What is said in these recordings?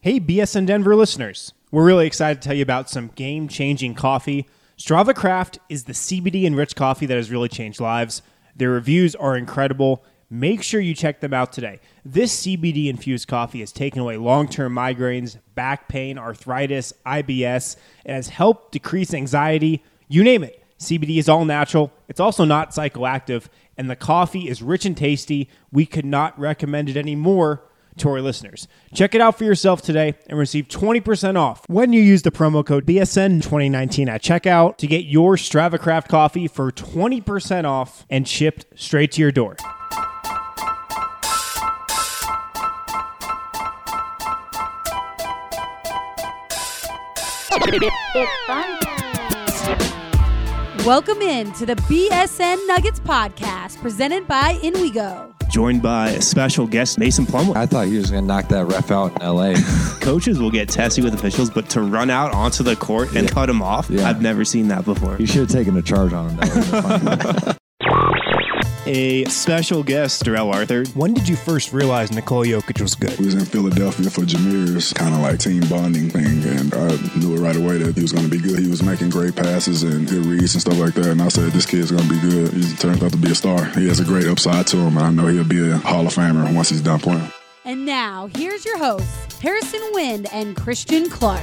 Hey, BSN Denver listeners. We're really excited to tell you about some game-changing coffee. Strava Craft is the CBD-enriched coffee that has really changed lives. Their reviews are incredible. Make sure you check them out today. This CBD-infused coffee has taken away long-term migraines, back pain, arthritis, IBS, and has helped decrease anxiety. You name it. CBD is all natural. It's also not psychoactive, and the coffee is rich and tasty. We could not recommend it anymore to our listeners. Check it out for yourself today and receive 20% off when you use the promo code BSN2019 at checkout to get your Strava Craft coffee for 20% off and shipped straight to your door. It's fun. Welcome in to the BSN Nuggets podcast presented by InWeGo. Joined by a special guest, Mason Plumlee. I thought he was going to knock that ref out in L.A. Coaches will get testy with officials, but to run out onto the court and cut him off, I've never seen that before. You should have taken a charge on him. That would have been fun. A special guest, Darrell Arthur. When did you first realize Nikola Jokic was good? We was in Philadelphia for Jameer's kind of like team bonding thing, and I knew it right away that he was going to be good. He was making great passes and good reads and stuff like that, and I said, this kid's going to be good. He turns out to be a star. He has a great upside to him, and I know he'll be a Hall of Famer once he's done playing. And now, here's your hosts, Harrison Wind and Christian Clark.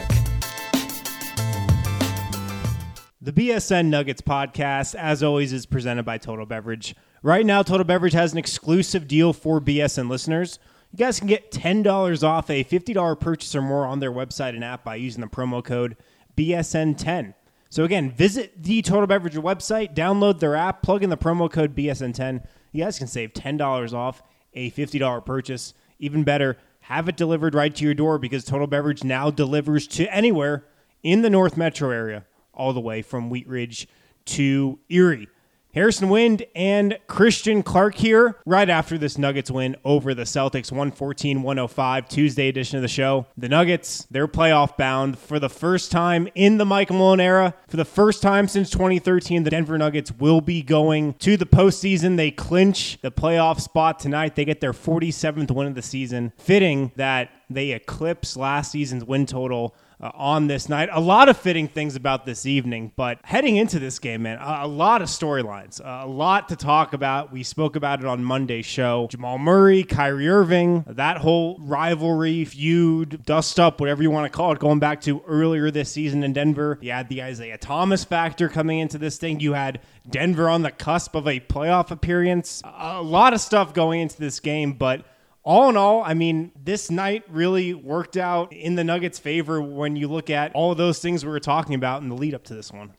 The BSN Nuggets podcast, as always, is presented by Total Beverage. Right now, Total Beverage has an exclusive deal for BSN listeners. You guys can get $10 off a $50 purchase or more on their website and app by using the promo code BSN10. So again, visit the Total Beverage website, download their app, plug in the promo code BSN10. You guys can save $10 off a $50 purchase. Even better, have it delivered right to your door because Total Beverage now delivers to anywhere in the North Metro area, all the way from Wheat Ridge to Erie. Harrison Wind and Christian Clark here right after this Nuggets win over the Celtics, 114-105, Tuesday edition of the show. The Nuggets, they're playoff bound for the first time in the Mike Malone era. For the first time since 2013, the Denver Nuggets will be going to the postseason. They clinch the playoff spot tonight. They get their 47th win of the season. Fitting that they eclipse last season's win total on this night. A lot of fitting things about this evening, but heading into this game, man, a lot of storylines, a lot to talk about. We spoke about it on Monday's show. Jamal Murray, Kyrie Irving, that whole rivalry, feud, dust up, whatever you want to call it, going back to earlier this season in Denver. You had the Isaiah Thomas factor coming into this thing. You had Denver on the cusp of a playoff appearance. A lot of stuff going into this game, but all in all, I mean, this night really worked out in the Nuggets' favor when you look at all of those things we were talking about in the lead up to this one.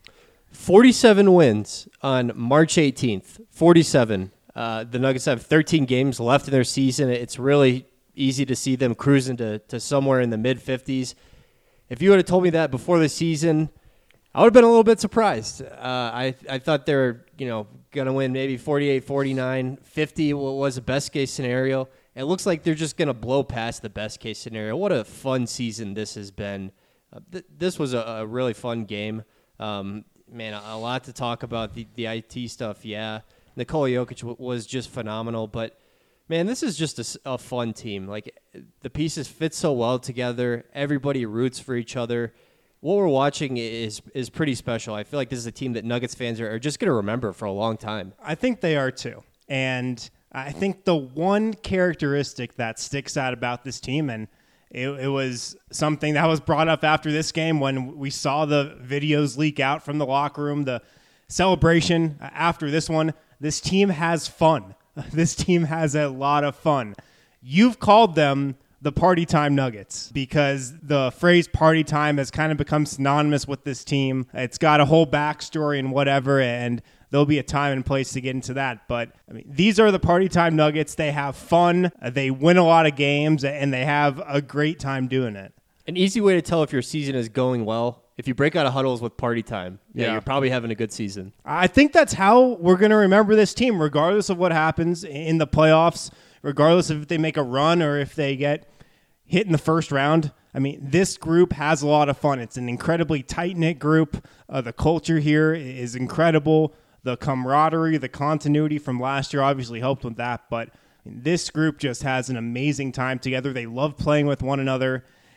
47 wins on March 18th. 47. The Nuggets have 13 games left in their season. It's really easy to see them cruising to somewhere in the mid-50s. If you would have told me that before the season, I would have been a little bit surprised. I thought they were going to win maybe 48, 49, 50 was the best-case scenario. It looks like they're just going to blow past the best-case scenario. What a fun season this has been. This was a really fun game. Man, a lot to talk about. The IT stuff, yeah. Nikola Jokic was just phenomenal. But, man, this is just a fun team. Like, the pieces fit so well together. Everybody roots for each other. What we're watching is pretty special. I feel like this is a team that Nuggets fans are just going to remember for a long time. I think they are, too. And I think the one characteristic that sticks out about this team, and it was something that was brought up after this game when we saw the videos leak out from the locker room, the celebration after this one, this team has fun. This team has a lot of fun. You've called them the Party Time Nuggets because the phrase party time has kind of become synonymous with this team. It's got a whole backstory and whatever, and there'll be a time and place to get into that. But I mean, these are the Party Time Nuggets. They have fun. They win a lot of games, and they have a great time doing it. An easy way to tell if your season is going well, if you break out of huddles with party time, you're probably having a good season. I think that's how we're going to remember this team, regardless of what happens in the playoffs, regardless of if they make a run or if they get hit in the first round. I mean, this group has a lot of fun. It's an incredibly tight-knit group. The culture here is incredible. The camaraderie, the continuity from last year obviously helped with that, but this group just has an amazing time together. They love playing with one another,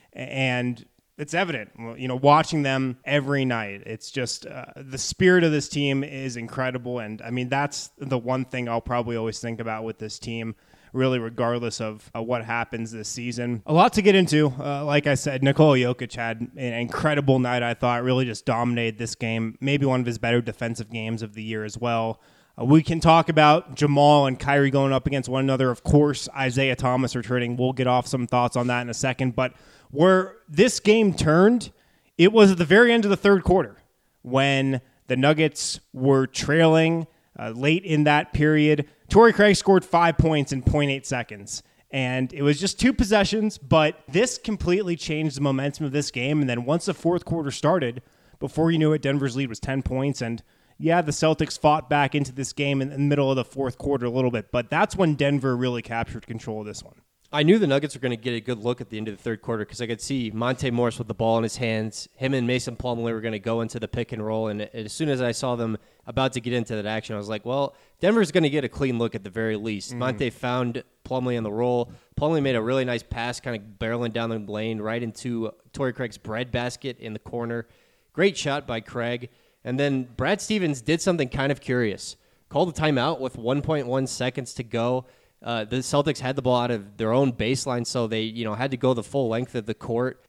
And it's evident, watching them every night. It's just the spirit of this team is incredible. And I mean, that's the one thing I'll probably always think about with this team, really, regardless of what happens this season. A lot to get into. Like I said, Nikola Jokic had an incredible night, I thought. Really just dominated this game. Maybe one of his better defensive games of the year as well. We can talk about Jamal and Kyrie going up against one another. Of course, Isaiah Thomas returning. We'll get off some thoughts on that in a second. But where this game turned, it was at the very end of the third quarter when the Nuggets were trailing late in that period. Torrey Craig scored 5 points in 0.8 seconds. And it was just 2 possessions, but this completely changed the momentum of this game. And then once the fourth quarter started, before you knew it, Denver's lead was 10 points. And yeah, the Celtics fought back into this game in the middle of the fourth quarter a little bit, but that's when Denver really captured control of this one. I knew the Nuggets were going to get a good look at the end of the third quarter because I could see Monte Morris with the ball in his hands. Him and Mason Plumlee were going to go into the pick and roll, and as soon as I saw them about to get into that action, I was like, well, Denver's going to get a clean look at the very least. Monte found Plumlee on the roll. Plumlee made a really nice pass, kind of barreling down the lane right into Torrey Craig's breadbasket in the corner. Great shot by Craig. And then Brad Stevens did something kind of curious. Called a timeout with 1.1 seconds to go. The Celtics had the ball out of their own baseline, so they had to go the full length of the court.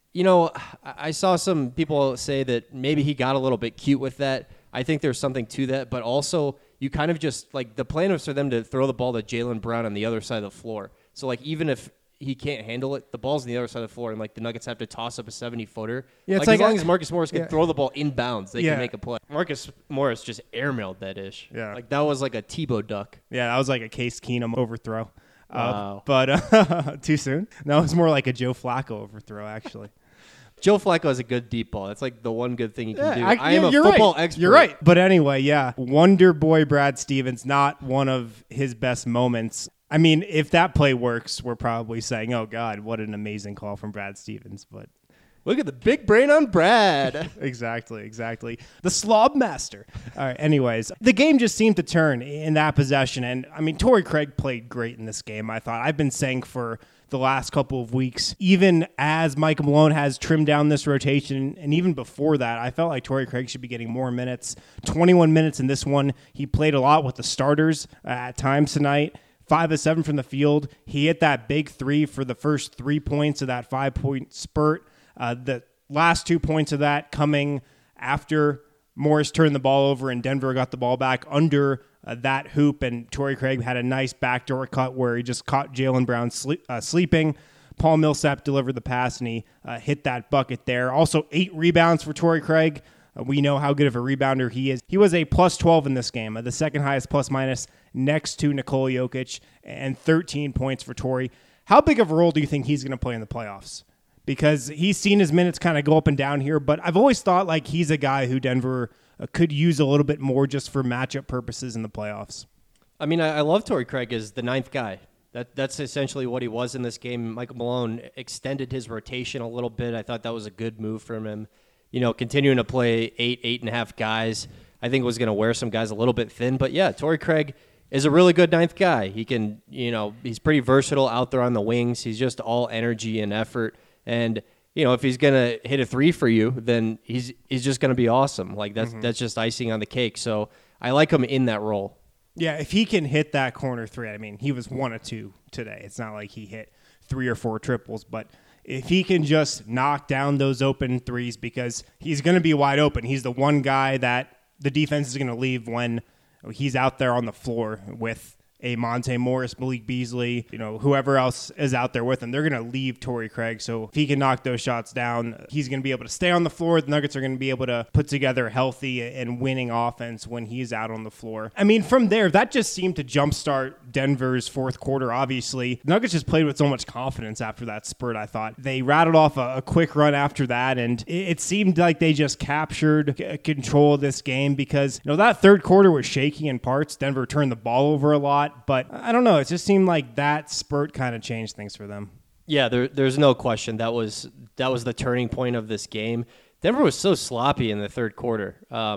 I saw some people say that maybe he got a little bit cute with that. I think there's something to that, but also you kind of just, the plan was for them to throw the ball to Jaylen Brown on the other side of the floor. So, even if he can't handle it, the ball's on the other side of the floor, and the Nuggets have to toss up a 70-footer. Yeah, as long as Marcus Morris can throw the ball inbounds, they can make a play. Marcus Morris just airmailed that ish. Yeah, that was like a Tebow duck. Yeah, that was like a Case Keenum overthrow. Wow. But too soon? No, it was more like a Joe Flacco overthrow, actually. Joe Flacco has a good deep ball. That's the one good thing he can do. I am a football expert. You're right. But anyway, yeah, Wonder Boy Brad Stevens, not one of his best moments. I mean, if that play works, we're probably saying, oh, God, what an amazing call from Brad Stevens. But look at the big brain on Brad. Exactly. The slob master. All right, anyways, the game just seemed to turn in that possession. And, I mean, Torrey Craig played great in this game, I thought. I've been saying for the last couple of weeks, even as Michael Malone has trimmed down this rotation, and even before that, I felt like Torrey Craig should be getting more minutes. 21 minutes in this one. He played a lot with the starters at times tonight. 5 of 7 from the field. He hit that big 3 for the first 3 points of that 5-point spurt. The last 2 points of that coming after Morris turned the ball over and Denver got the ball back under that hoop, and Torrey Craig had a nice backdoor cut where he just caught Jaylen Brown sleeping. Paul Millsap delivered the pass, and he hit that bucket there. Also, 8 rebounds for Torrey Craig. We know how good of a rebounder he is. He was a plus 12 in this game, the second highest plus-minus next to Nikola Jokic, and 13 points for Torrey. How big of a role do you think he's going to play in the playoffs? Because he's seen his minutes kind of go up and down here, but I've always thought he's a guy who Denver could use a little bit more just for matchup purposes in the playoffs. I mean, I love Torrey Craig as the 9th guy. That's essentially what he was in this game. Michael Malone extended his rotation a little bit. I thought that was a good move from him. Continuing to play 8.5 guys, I think was going to wear some guys a little bit thin. But yeah, Torrey Craig is a really good 9th guy. He can, he's pretty versatile out there on the wings. He's just all energy and effort. And, if he's going to hit a 3 for you, then he's just going to be awesome. That's just icing on the cake. So I like him in that role. Yeah, if he can hit that corner 3, I mean, he was 1 of 2 today. It's not like he hit 3 or 4 triples, but if he can just knock down those open 3s, because he's going to be wide open. He's the one guy that the defense is going to leave when he's out there on the floor with a Monte Morris, Malik Beasley, whoever else is out there with him. They're going to leave Torrey Craig. So if he can knock those shots down, he's going to be able to stay on the floor. The Nuggets are going to be able to put together a healthy and winning offense when he's out on the floor. I mean, from there, that just seemed to jumpstart Denver's fourth quarter, obviously. The Nuggets just played with so much confidence after that spurt, I thought. They rattled off a quick run after that, and it seemed like they just captured control of this game because, that third quarter was shaky in parts. Denver turned the ball over a lot. But I don't know. It just seemed like that spurt kind of changed things for them. Yeah, there's no question. That was the turning point of this game. Denver was so sloppy in the third quarter.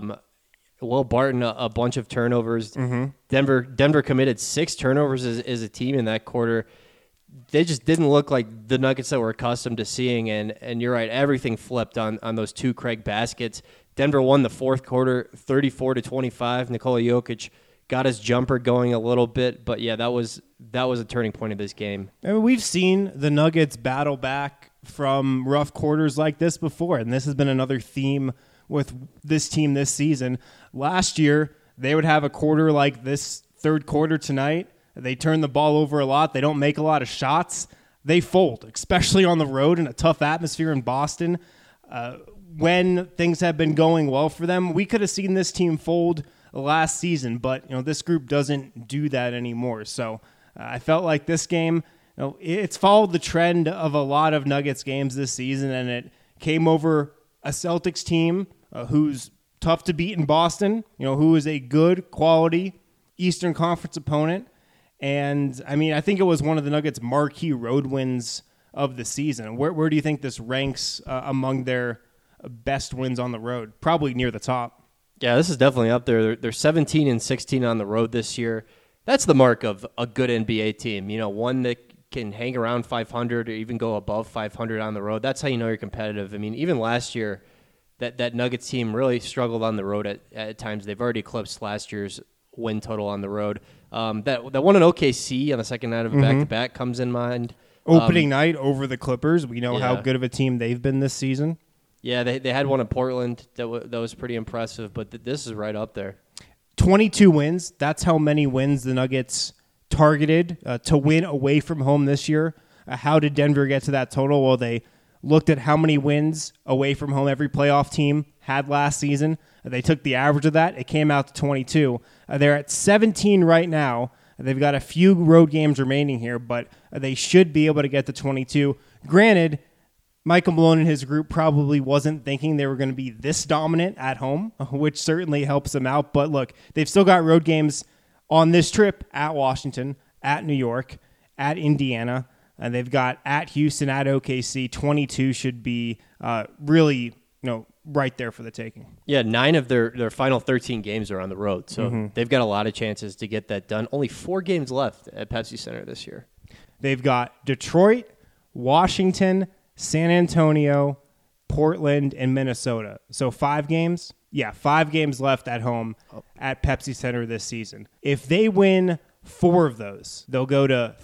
Will Barton, a bunch of turnovers. Mm-hmm. Denver committed 6 turnovers as a team in that quarter. they just didn't look like the Nuggets that we're accustomed to seeing. And you're right, everything flipped on those two Craig baskets. Denver won the fourth quarter, 34-25. Nikola Jokic got his jumper going a little bit, but yeah, that was a turning point of this game. I mean, we've seen the Nuggets battle back from rough quarters like this before, and this has been another theme with this team this season. Last year, they would have a quarter like this third quarter tonight. They turn the ball over a lot. They don't make a lot of shots. They fold, especially on the road in a tough atmosphere in Boston. When things have been going well for them, we could have seen this team fold last season, but this group doesn't do that anymore. So I felt like this game, it's followed the trend of a lot of Nuggets games this season, and it came over a Celtics team who's tough to beat in Boston, who is a good quality Eastern Conference opponent. And I mean, I think it was one of the Nuggets' marquee road wins of the season. Where do you think this ranks among their best wins on the road? Probably near the top. Yeah, this is definitely up there. They're 17-16 on the road this year. That's the mark of a good NBA team. One that can hang around 500 or even go above 500 on the road. That's how you know you're competitive. I mean, even last year, that Nuggets team really struggled on the road at times. They've already eclipsed last year's win total on the road. That one in OKC on the second night of a back-to-back comes in mind. Opening night over the Clippers. We know how good of a team they've been this season. Yeah, they had one in Portland that was pretty impressive, but this is right up there. 22 wins. That's how many wins the Nuggets targeted to win away from home this year. How did Denver get to that total? Well, they looked at how many wins away from home every playoff team had last season. They took the average of that. It came out to 22. They're at 17 right now. They've got a few road games remaining here, but they should be able to get to 22. Granted, Michael Malone and his group probably wasn't thinking they were going to be this dominant at home, which certainly helps them out. But look, they've still got road games on this trip at Washington, at New York, at Indiana, and they've got at Houston, at OKC. 22 should be really, right there for the taking. Yeah, 9 of their final 13 games are on the road, so they've got a lot of chances to get that done. Only 4 games left at Pepsi Center this year. They've got Detroit, Washington, San Antonio, Portland, and Minnesota. So 5 games? Yeah, 5 games left at home at Pepsi Center this season. If they win 4 of those, they'll go to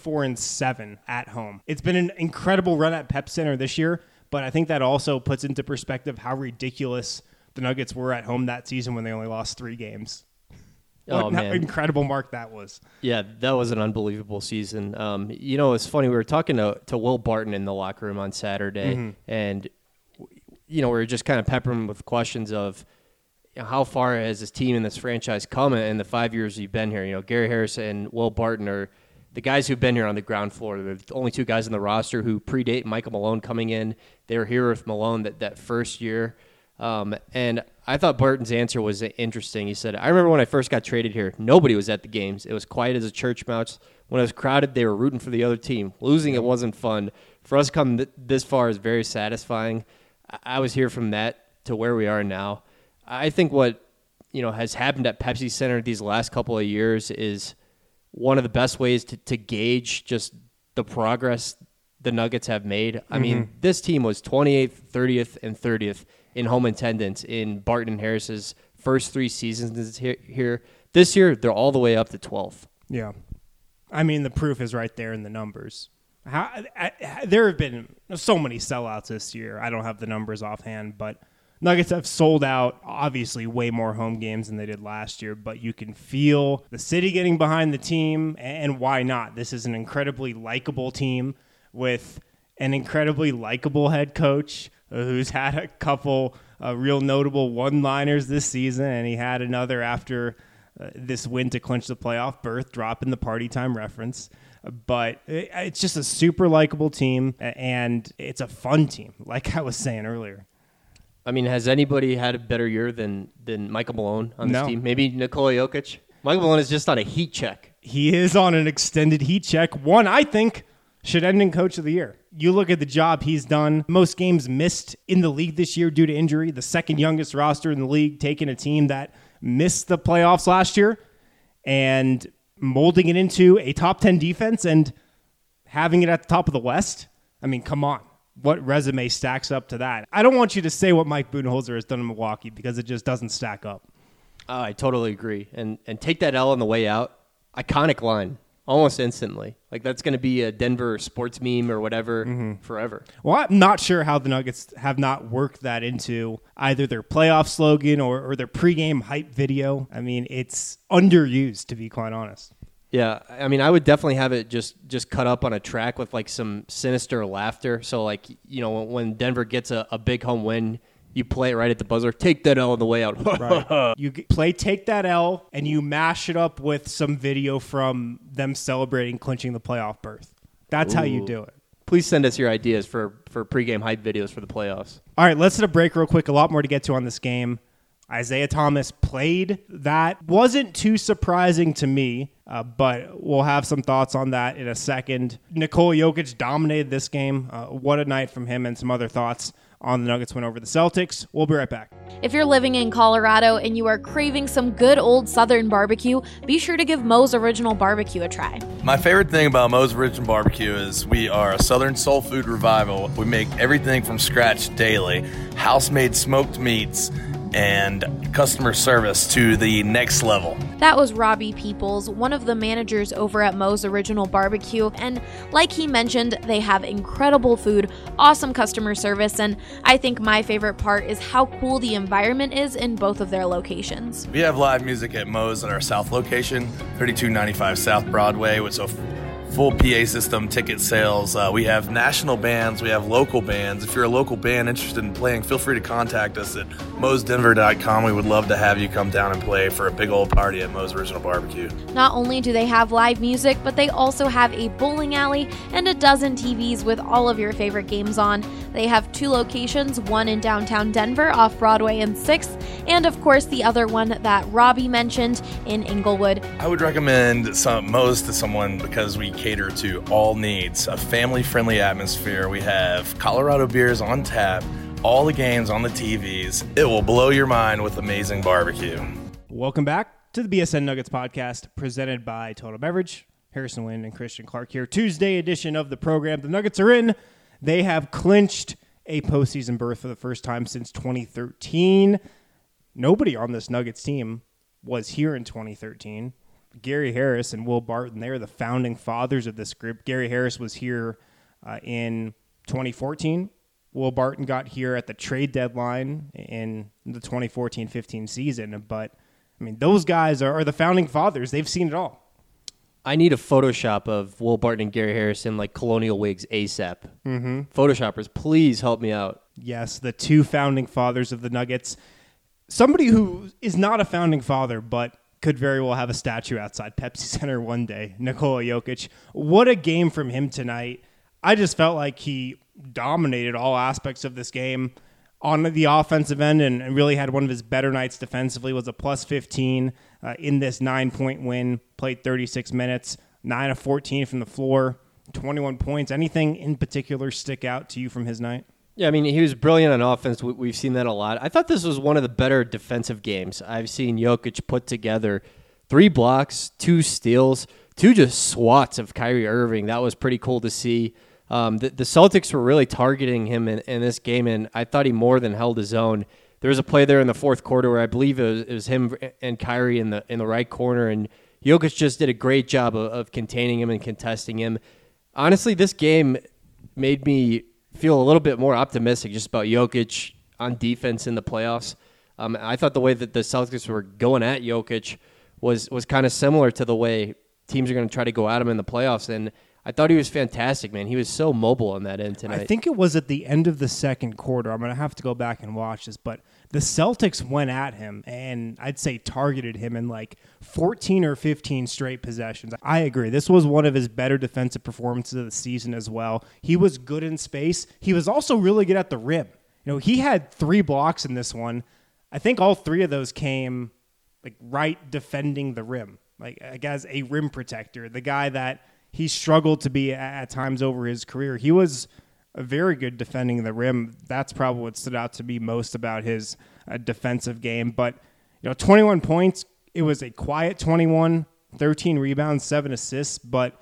34-7 at home. It's been an incredible run at Pepsi Center this year, but I think that also puts into perspective how ridiculous the Nuggets were at home that season when they only lost 3 games. What an incredible mark that was. Yeah, that was an unbelievable season. It's funny. We were talking to Will Barton in the locker room on Saturday, and we were just kind of peppering him with questions of how far has this team and this franchise come in the 5 years you've been here. Gary Harris and Will Barton are the guys who've been here on the ground floor. They're the only 2 guys on the roster who predate Michael Malone coming in. They were here with Malone that first year. And I thought Barton's answer was interesting. He said, I remember when I first got traded here, nobody was at the games. It was quiet as a church mouse. When it was crowded, they were rooting for the other team. Losing it wasn't fun. For us to come this far is very satisfying. I was here from that to where we are now. I think what has happened at Pepsi Center these last couple of years is one of the best ways to gauge just the progress the Nuggets have made. I mean, this team was 28th, 30th, and 30th in home attendance in Barton and Harris's first 3 seasons here. This year, they're all the way up to 12th. Yeah. I mean, the proof is right there in the numbers. There have been so many sellouts this year. I don't have the numbers offhand, but Nuggets have sold out, obviously, way more home games than they did last year, but you can feel the city getting behind the team, and why not? This is an incredibly likable team with an incredibly likable head coach who's had a couple real notable one-liners this season, and he had another after this win to clinch the playoff berth, dropping the party time reference. But it's just a super likable team, and it's a fun team, like I was saying earlier. I mean, has anybody had a better year than Michael Malone on this team? Maybe Nikola Jokic? Michael Malone is just on a heat check. He is on an extended heat check. One, I think, should end in Coach of the Year. You look at the job he's done. Most games missed in the league this year due to injury. The second youngest roster in the league, taking a team that missed the playoffs last year and molding it into a top 10 defense and having it at the top of the West, I mean, come on. What resume stacks up to that? I don't want you to say what Mike Budenholzer has done in Milwaukee because it just doesn't stack up. I totally agree. And take that L on the way out. Iconic line. Almost instantly. Like, that's going to be a Denver sports meme or whatever forever. Well, I'm not sure how the Nuggets have not worked that into either their playoff slogan or their pregame hype video. I mean, it's underused, to be quite honest. Yeah, I mean, I would definitely have it just cut up on a track with, like, some sinister laughter. So, like, you know, when Denver gets a big home win, you play it right at the buzzer. Take that L on the way out. Right. You play Take That L, and you mash it up with some video from them celebrating clinching the playoff berth. That's how you do it. Please send us your ideas for pregame hype videos for the playoffs. All right, let's hit a break real quick. A lot more to get to on this game. Isaiah Thomas played. That wasn't too surprising to me, but we'll have some thoughts on that in a second. Nikola Jokic dominated this game. What a night from him, and some other thoughts on the Nuggets win over the Celtics. We'll be right back. If you're living in Colorado and you are craving some good old Southern barbecue, be sure to give Moe's Original Barbecue a try. My favorite thing about Moe's Original Barbecue is we are a Southern soul food revival. We make everything from scratch daily, house-made smoked meats, and customer service to the next level. That was Robbie Peoples, one of the managers over at Moe's Original Barbecue, and like he mentioned, they have incredible food, awesome customer service, and I think my favorite part is how cool the environment is in both of their locations. We have live music at Moe's at our South location, 3295 South Broadway, with a full PA system, ticket sales. We have national bands. We have local bands. If you're a local band interested in playing, feel free to contact us at moesdenver.com. We would love to have you come down and play for a big old party at Moe's Original Barbecue. Not only do they have live music, but they also have a bowling alley and a dozen TVs with all of your favorite games on. They have 2 locations, one in downtown Denver off Broadway and 6th, and of course the other one that Robbie mentioned in Inglewood. I would recommend Moe's to someone because we cater to all needs, a family-friendly atmosphere. We have Colorado beers on tap, all the games on the TVs. It will blow your mind with amazing barbecue. Welcome back to the BSN Nuggets podcast presented by Total Beverage. Harrison Wind and Christian Clark here. Tuesday edition of the program. The Nuggets are in. They have clinched a postseason berth for the first time since 2013. Nobody on this Nuggets team was here in 2013. Gary Harris and Will Barton, they are the founding fathers of this group. Gary Harris was here in 2014. Will Barton got here at the trade deadline in the 2014-15 season. But, I mean, those guys are the founding fathers. They've seen it all. I need a Photoshop of Will Barton and Gary Harris in, like, colonial wigs ASAP. Photoshoppers, please help me out. Yes, the 2 founding fathers of the Nuggets. Somebody who is not a founding father, but could very well have a statue outside Pepsi Center one day, Nikola Jokic. What a game from him tonight. I just felt like he dominated all aspects of this game on the offensive end and really had one of his better nights defensively. Was a plus 15 in this 9-point win, played 36 minutes, 9 of 14 from the floor, 21 points. Anything in particular stick out to you from his night? Yeah, I mean, he was brilliant on offense. We've seen that a lot. I thought this was one of the better defensive games I've seen Jokic put together. 3 blocks, 2 steals, 2 just swats of Kyrie Irving. That was pretty cool to see. The Celtics were really targeting him in this game, and I thought he more than held his own. There was a play there in the fourth quarter where I believe it was him and Kyrie in the right corner, and Jokic just did a great job of containing him and contesting him. Honestly, this game made me feel a little bit more optimistic just about Jokic on defense in the playoffs. I thought the way that the Celtics were going at Jokic was kind of similar to the way teams are going to try to go at him in the playoffs, and I thought he was fantastic, man. He was so mobile on that end tonight. I think it was at the end of the second quarter. I'm going to have to go back and watch this, but the Celtics went at him and I'd say targeted him in like 14 or 15 straight possessions. I agree. This was one of his better defensive performances of the season as well. He was good in space. He was also really good at the rim. You know, he had 3 blocks in this one. I think all 3 of those came like right defending the rim, like as a rim protector, the guy that he struggled to be at times over his career. He was very good defending the rim. That's probably what stood out to me most about his defensive game. But, 21 points, it was a quiet 21, 13 rebounds, 7 assists. But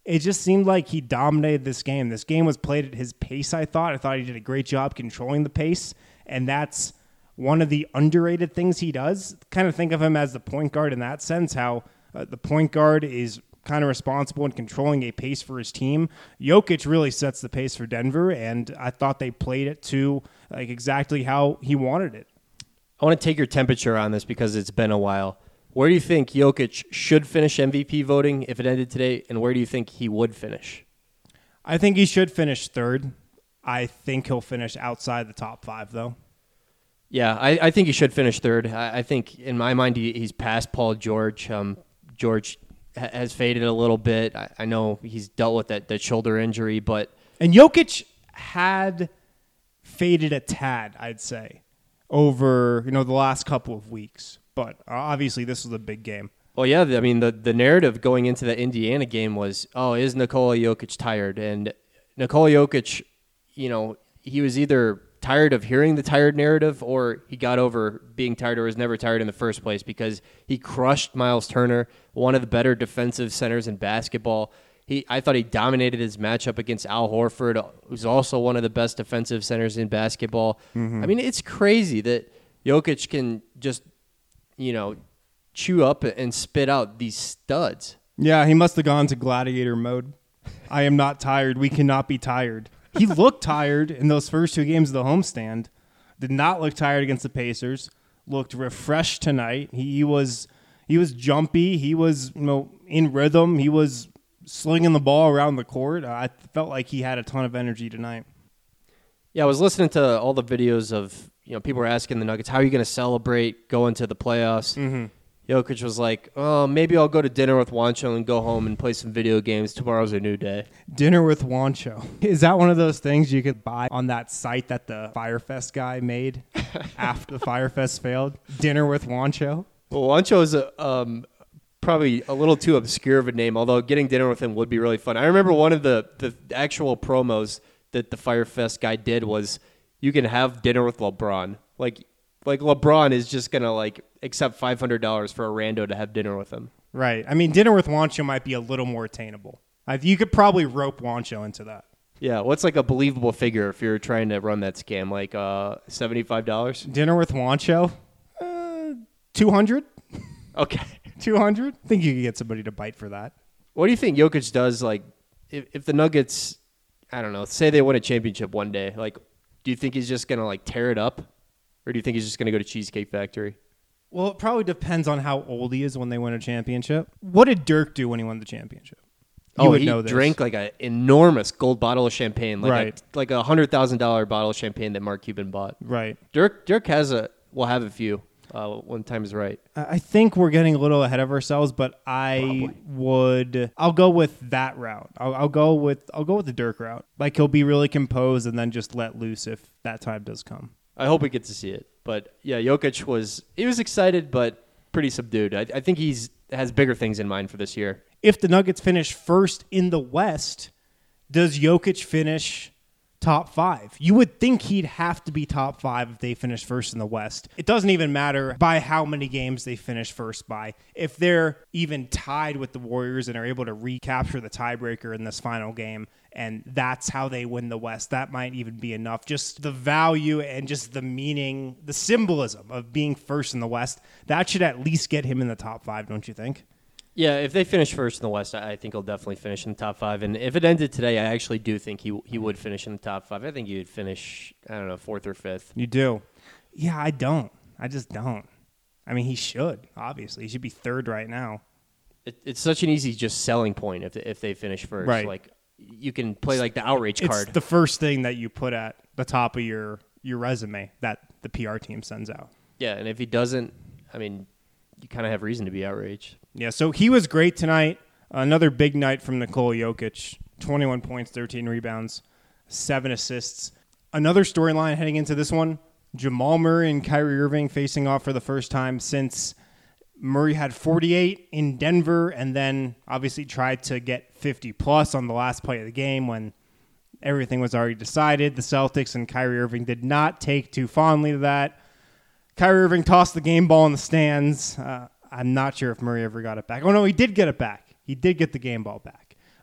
it just seemed like he dominated this game. This game was played at his pace, I thought. I thought he did a great job controlling the pace, and that's one of the underrated things he does. Kind of think of him as the point guard in that sense, how the point guard is kind of responsible in controlling a pace for his team. Jokic really sets the pace for Denver, and I thought they played it to like exactly how he wanted it. I want to take your temperature on this because it's been a while. Where do you think Jokic should finish MVP voting if it ended today, and where do you think he would finish? I think he should finish third. I think he'll finish outside the top 5, though. Yeah, I think he should finish third. I think, in my mind, he's past Paul George. George has faded a little bit. I know he's dealt with that shoulder injury, but... And Jokic had faded a tad, I'd say, over the last couple of weeks. But obviously, this was a big game. Well, yeah, I mean, the narrative going into the Indiana game was, is Nikola Jokic tired? And Nikola Jokic, he was either tired of hearing the tired narrative or he got over being tired or was never tired in the first place because he crushed Miles Turner, one of the better defensive centers in basketball. I thought he dominated his matchup against Al Horford, who's also one of the best defensive centers in basketball. Mm-hmm. I mean, it's crazy that Jokic can just chew up and spit out these studs. Yeah, he must have gone to gladiator mode. I am not tired. We cannot be tired. He looked tired in those first 2 games of the homestand. Did not look tired against the Pacers. Looked refreshed tonight. He was jumpy. He was in rhythm. He was slinging the ball around the court. I felt like he had a ton of energy tonight. Yeah, I was listening to all the videos of people were asking the Nuggets, how are you going to celebrate going to the playoffs? Mm-hmm. Jokic was like, maybe I'll go to dinner with Juancho and go home and play some video games. Tomorrow's a new day. Dinner with Juancho. Is that one of those things you could buy on that site that the Firefest guy made after the Firefest failed? Dinner with Juancho? Well, Juancho is probably a little too obscure of a name, although getting dinner with him would be really fun. I remember one of the actual promos that the Firefest guy did was you can have dinner with LeBron. Like LeBron is just going to accept $500 for a rando to have dinner with him. Right. I mean, dinner with Juancho might be a little more attainable. You could probably rope Juancho into that. Yeah. What's a believable figure if you're trying to run that scam? $75? Dinner with Juancho? 200? Okay. 200? I think you could get somebody to bite for that. What do you think Jokic does? If the Nuggets, I don't know, say they win a championship one day, do you think he's just going to tear it up? Or do you think he's just going to go to Cheesecake Factory? Well, it probably depends on how old he is when they win a championship. What did Dirk do when he won the championship? He drank an enormous gold bottle of champagne, right. like a $100,000 bottle of champagne that Mark Cuban bought. Right. Dirk will have a few when time is right. I think we're getting a little ahead of ourselves, but I'll go with that route. I'll go with the Dirk route. He'll be really composed and then just let loose if that time does come. I hope we get to see it. But, yeah, Jokic was excited but pretty subdued. I think has bigger things in mind for this year. If the Nuggets finish first in the West, does Jokic finish top 5? You would think he'd have to be top 5 if they finish first in the West. It doesn't even matter by how many games they finish first by. If they're even tied with the Warriors and are able to recapture the tiebreaker in this final game, and that's how they win the West, that might even be enough. Just the value and just the meaning, the symbolism of being first in the West, that should at least get him in the top 5, don't you think? Yeah, if they finish first in the West, I think he'll definitely finish in the top 5. And if it ended today, I actually do think he would finish in the top 5. I think he would finish, 4th or 5th. You do? Yeah, I don't. I just don't. I mean, he should, obviously. He should be 3rd right now. It's such an easy just selling point if they finish first. Right. You can play the outrage card. It's the first thing that you put at the top of your resume that the PR team sends out. Yeah, and if he doesn't, you kind of have reason to be outraged. Yeah, so he was great tonight. Another big night from Nikola Jokic. 21 points, 13 rebounds, 7 assists. Another storyline heading into this one, Jamal Murray and Kyrie Irving facing off for the first time since Murray had 48 in Denver and then obviously tried to get 50-plus on the last play of the game when everything was already decided. The Celtics and Kyrie Irving did not take too fondly to that. Kyrie Irving tossed the game ball in the stands. I'm not sure if Murray ever got it back. Oh, no, he did get it back. He did get the game ball back.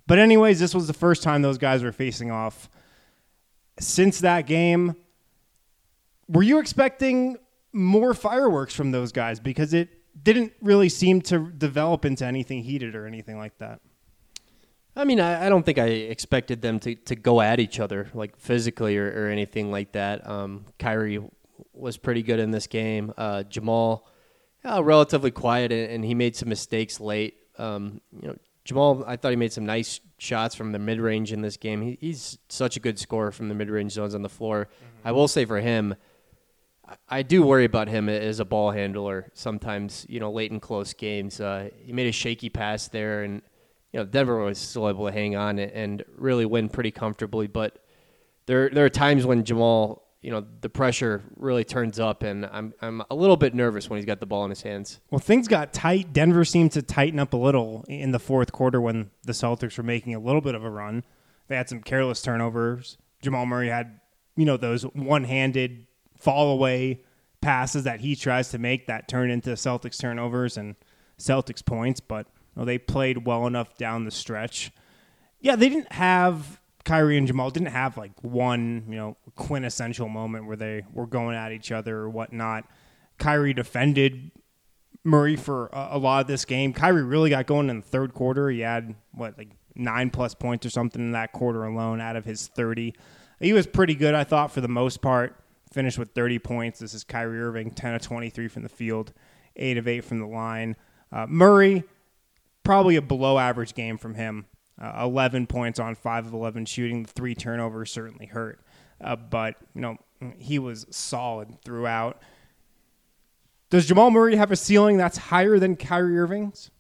But anyways, this was the first time those guys were facing off. Since that game, were you expecting more fireworks from those guys? Because it didn't really seem to develop into anything heated or anything like that. I mean, I don't think I expected them to go at each other, like physically or anything like that. Kyrie was pretty good in this game. Jamal, relatively quiet, and he made some mistakes late. Jamal, I thought he made some nice shots from the mid-range in this game. He's such a good scorer from the mid-range zones on the floor. Mm-hmm. I will say for him, I do worry about him as a ball handler sometimes, late in close games. He made a shaky pass there, and Denver was still able to hang on and really win pretty comfortably. But there are times when Jamal, the pressure really turns up, and I'm a little bit nervous when he's got the ball in his hands. Well, things got tight. Denver seemed to tighten up a little in the fourth quarter when the Celtics were making a little bit of a run. They had some careless turnovers. Jamal Murray had, those one-handed fall-away passes that he tries to make that turn into Celtics turnovers and Celtics points, but they played well enough down the stretch. Yeah, they didn't have Kyrie and Jamal didn't have like one, quintessential moment where they were going at each other or whatnot. Kyrie defended Murray for a lot of this game. Kyrie really got going in the third quarter. He had 9+ points or something in that quarter alone out of his 30. He was pretty good, I thought, for the most part. Finished with 30 points. This is Kyrie Irving, 10 of 23 from the field, 8 of 8 from the line. Murray, probably a below-average game from him. 11 points on 5 of 11 shooting. The 3 turnovers certainly hurt. But he was solid throughout. Does Jamal Murray have a ceiling that's higher than Kyrie Irving's?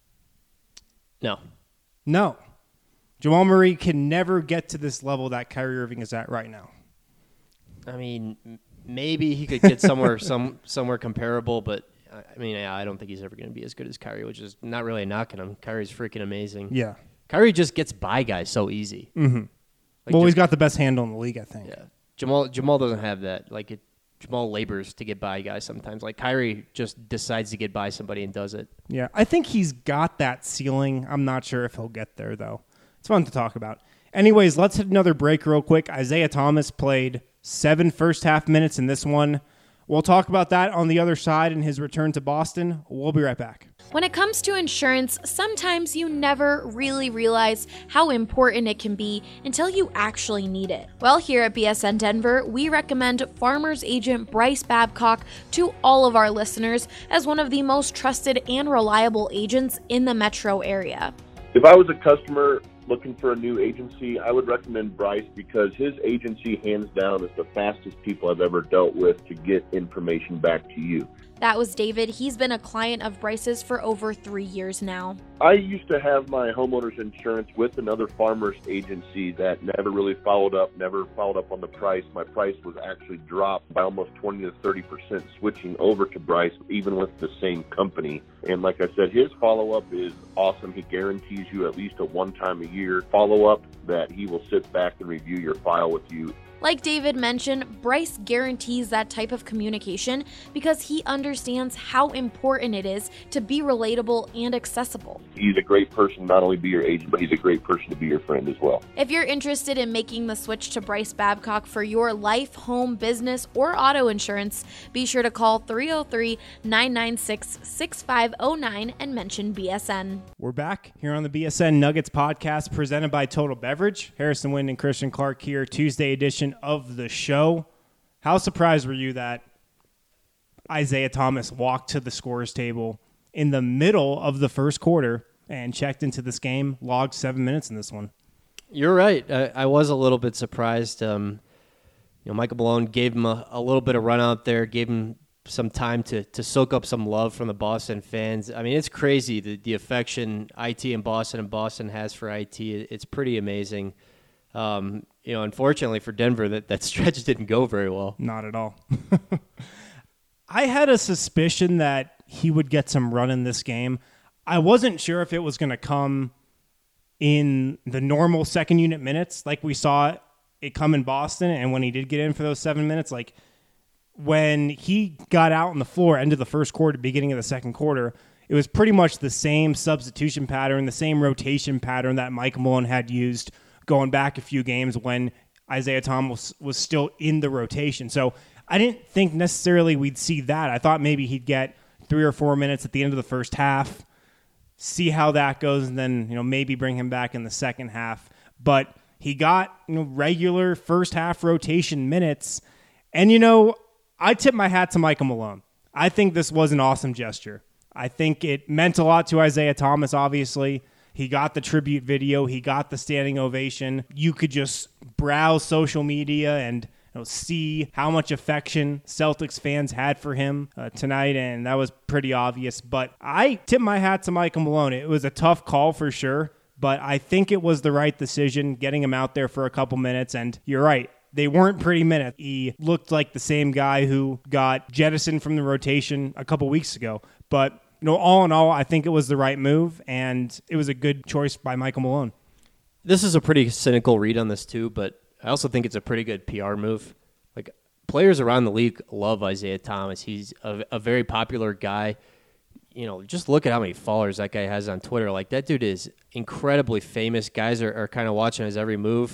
No. Jamal Murray can never get to this level that Kyrie Irving is at right now. I mean, maybe he could get somewhere comparable, but I don't think he's ever going to be as good as Kyrie, which is not really a knock on him. Kyrie's freaking amazing. Yeah. Kyrie just gets by guys so easy. Mm-hmm. He's got the best handle in the league, I think. Yeah. Jamal doesn't have that. Jamal labors to get by guys sometimes. Kyrie just decides to get by somebody and does it. Yeah, I think he's got that ceiling. I'm not sure if he'll get there, though. It's fun to talk about. Anyways, let's hit another break real quick. Isaiah Thomas played 7 first-half minutes in this one. We'll talk about that on the other side in his return to Boston. We'll be right back. When it comes to insurance, sometimes you never really realize how important it can be until you actually need it. Well, here at BSN Denver, we recommend Farmers Agent Bryce Babcock to all of our listeners as one of the most trusted and reliable agents in the metro area. If I was a customer looking for a new agency, I would recommend Bryce because his agency, hands down, is the fastest people I've ever dealt with to get information back to you. That was David. He's been a client of Bryce's for over 3 years now. I used to have my homeowner's insurance with another farmer's agency that never really followed up on the price. My price was actually dropped by almost 20 to 30% switching over to Bryce, even with the same company. And like I said, his follow-up is awesome. He guarantees you at least a one-time-a-year follow-up that he will sit back and review your file with you. Like David mentioned, Bryce guarantees that type of communication because he understands how important it is to be relatable and accessible. He's a great person, not only be your agent, but he's a great person to be your friend as well. If you're interested in making the switch to Bryce Babcock for your life, home, business, or auto insurance, be sure to call 303-996-6509 and mention BSN. We're back here on the BSN Nuggets podcast presented by Total Beverage. Harrison Wind and Christian Clark here, Tuesday edition of the show. How surprised were you that Isaiah Thomas walked to the scorer's table in the middle of the first quarter and checked into this game, logged 7 minutes in this one? You're right. I was a little bit surprised. Michael Malone gave him a little bit of run out there, gave him some time to soak up some love from the Boston fans. I mean, it's crazy the affection IT in Boston and Boston has for IT. It's pretty amazing. Unfortunately for Denver, that stretch didn't go very well. Not at all. I had a suspicion that he would get some run in this game. I wasn't sure if it was going to come in the normal second unit minutes like we saw it come in Boston, and when he did get in for those 7 minutes, like when he got out on the floor, end of the first quarter, beginning of the second quarter, it was pretty much the same substitution pattern, the same rotation pattern that Mike Malone had used going back a few games when Isaiah Thomas was still in the rotation. So I didn't think necessarily we'd see that. I thought maybe he'd get 3 or 4 minutes at the end of the first half, see how that goes, and then maybe bring him back in the second half. But he got regular first half rotation minutes, and I tip my hat to Michael Malone. I think this was an awesome gesture. I think it meant a lot to Isaiah Thomas, obviously. He got the tribute video. He got the standing ovation. You could just browse social media and see how much affection Celtics fans had for him tonight, and that was pretty obvious. But I tip my hat to Michael Malone. It was a tough call for sure, but I think it was the right decision, getting him out there for a couple minutes. And you're right, they weren't pretty minutes. He looked like the same guy who got jettisoned from the rotation a couple weeks ago. But all in all, I think it was the right move, and it was a good choice by Michael Malone. This is a pretty cynical read on this too, but I also think it's a pretty good PR move. Like, players around the league love Isaiah Thomas. He's a very popular guy. Just look at how many followers that guy has on Twitter. Like, that dude is incredibly famous. Guys are kind of watching his every move.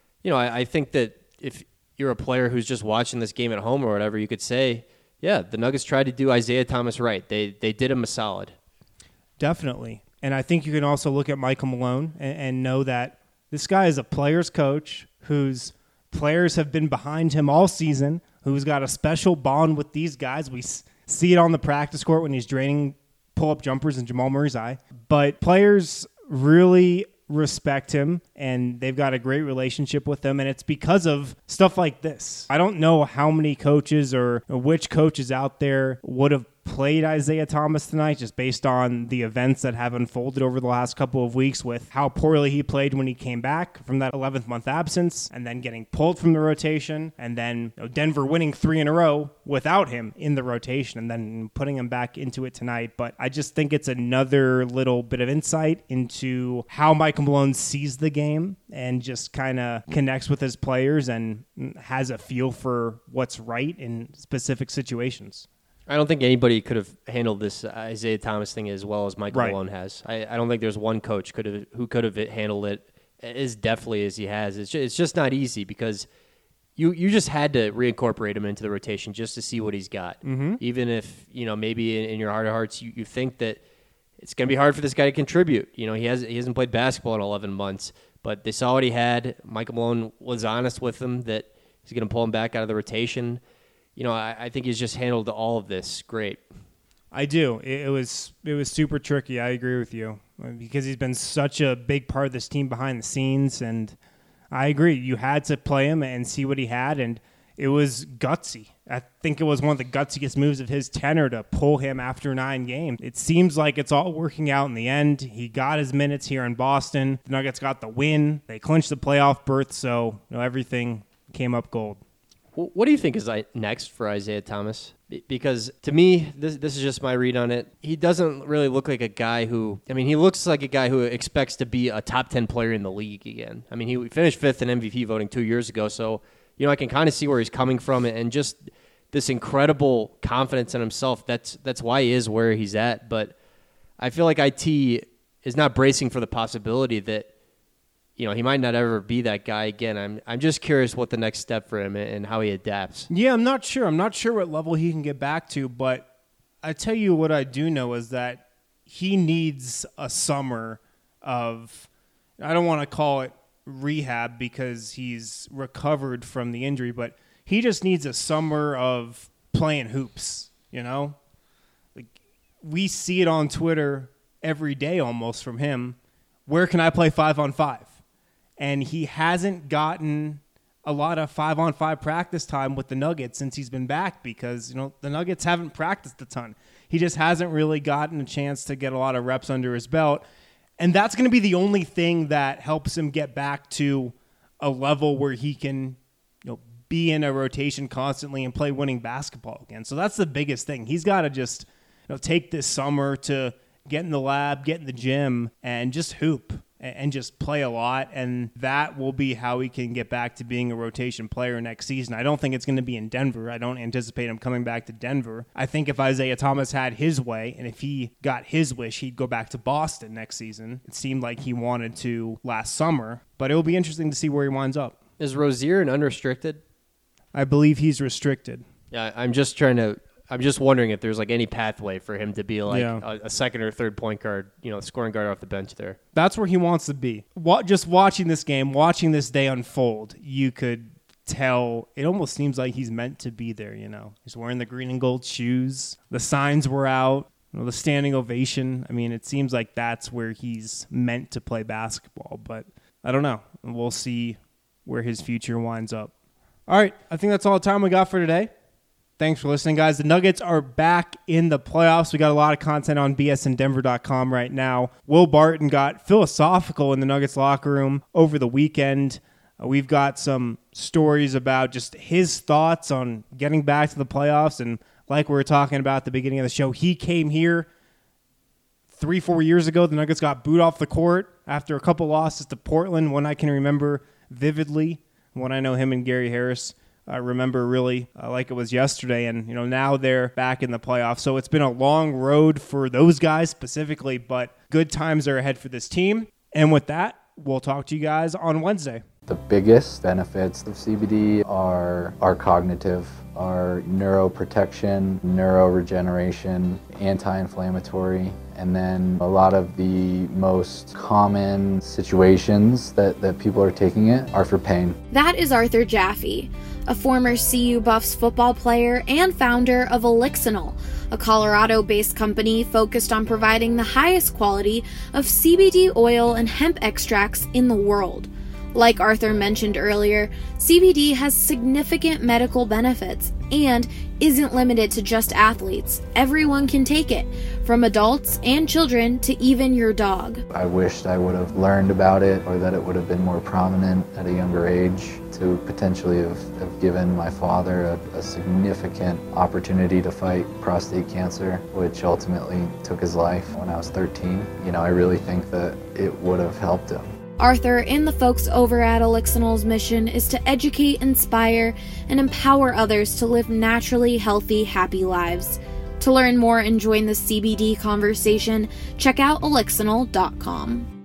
I think that if you're a player who's just watching this game at home or whatever, you could say, yeah, the Nuggets tried to do Isaiah Thomas right. They did him a solid. Definitely. And I think you can also look at Michael Malone and know that this guy is a player's coach whose players have been behind him all season, who's got a special bond with these guys. We see it on the practice court when he's draining pull-up jumpers in Jamal Murray's eye. But players really respect him, and they've got a great relationship with him, and it's because of stuff like this. I don't know how many coaches or which coaches out there would have played Isaiah Thomas tonight, just based on the events that have unfolded over the last couple of weeks with how poorly he played when he came back from that 11th month absence, and then getting pulled from the rotation, and then Denver winning 3 in a row without him in the rotation, and then putting him back into it tonight. But I just think it's another little bit of insight into how Michael Malone sees the game and just kind of connects with his players and has a feel for what's right in specific situations. I don't think anybody could have handled this Isaiah Thomas thing as well as Michael Malone has. I don't think there's one coach who could have handled it as deftly as he has. It's just not easy because you just had to reincorporate him into the rotation just to see what he's got. Mm-hmm. Even if maybe in your heart of hearts you think that it's going to be hard for this guy to contribute. He hasn't played basketball in 11 months, but they saw what he had. Michael Malone was honest with him that he's going to pull him back out of the rotation. I think he's just handled all of this great. I do. It was super tricky. I agree with you because he's been such a big part of this team behind the scenes, and I agree. You had to play him and see what he had, and it was gutsy. I think it was one of the gutsiest moves of his tenure to pull him after 9 games. It seems like it's all working out in the end. He got his minutes here in Boston. The Nuggets got the win. They clinched the playoff berth, so everything came up gold. What do you think is next for Isaiah Thomas? Because to me, this is just my read on it. He doesn't really look like a guy he looks like a guy who expects to be a top 10 player in the league again. He finished 5th in MVP voting 2 years ago, so I can kind of see where he's coming from, and just this incredible confidence in himself. That's why he is where he's at. But I feel like IT is not bracing for the possibility that he might not ever be that guy again. I'm just curious what the next step for him and how he adapts. Yeah, I'm not sure. I'm not sure what level he can get back to, but I tell you what I do know is that he needs a summer of, I don't want to call it rehab because he's recovered from the injury, but he just needs a summer of playing hoops, Like, we see it on Twitter every day almost from him. Where can I play 5-on-5? And he hasn't gotten a lot of 5-on-5 practice time with the Nuggets since he's been back because, the Nuggets haven't practiced a ton. He just hasn't really gotten a chance to get a lot of reps under his belt. And that's going to be the only thing that helps him get back to a level where he can, be in a rotation constantly and play winning basketball again. So that's the biggest thing. He's got to just, take this summer to get in the lab, get in the gym, and just hoop. and just play a lot, and that will be how he can get back to being a rotation player next season. I don't think it's going to be in Denver. I don't anticipate him coming back to Denver. I think if Isaiah Thomas had his way, and if he got his wish, he'd go back to Boston next season. It seemed like he wanted to last summer, but it will be interesting to see where he winds up. Is Rozier an unrestricted? I believe he's restricted. Yeah, I'm just wondering if there's like any pathway for him to be like a second or third point guard, scoring guard off the bench there. That's where he wants to be. Just watching this game, watching this day unfold, you could tell it almost seems like he's meant to be there, He's wearing the green and gold shoes. The signs were out, the standing ovation. I mean, it seems like that's where he's meant to play basketball, but I don't know. We'll see where his future winds up. All right, I think that's all the time we got for today. Thanks for listening, guys. The Nuggets are back in the playoffs. We got a lot of content on bsndenver.com right now. Will Barton got philosophical in the Nuggets locker room over the weekend. We've got some stories about just his thoughts on getting back to the playoffs. And like we were talking about at the beginning of the show, he came here 3-4 years ago. The Nuggets got booed off the court after a couple losses to Portland. One I can remember vividly. One I know him and Gary Harris I remember really like it was yesterday, and now they're back in the playoffs. So it's been a long road for those guys specifically, but good times are ahead for this team. And with that, we'll talk to you guys on Wednesday. The biggest benefits of CBD are cognitive, are neuroprotection, neuroregeneration, anti-inflammatory, and then a lot of the most common situations that people are taking it are for pain. That is Arthur Jaffe, a former CU Buffs football player and founder of Elixinol, a Colorado-based company focused on providing the highest quality of CBD oil and hemp extracts in the world. Like Arthur mentioned earlier, CBD has significant medical benefits and isn't limited to just athletes. Everyone can take it, from adults and children to even your dog. I wished I would have learned about it, or that it would have been more prominent at a younger age, to potentially have given my father a significant opportunity to fight prostate cancer, which ultimately took his life when I was 13. I really think that it would have helped him. Arthur and the folks over at Elixinol's mission is to educate, inspire, and empower others to live naturally healthy, happy lives. To learn more and join the CBD conversation, check out elixinol.com.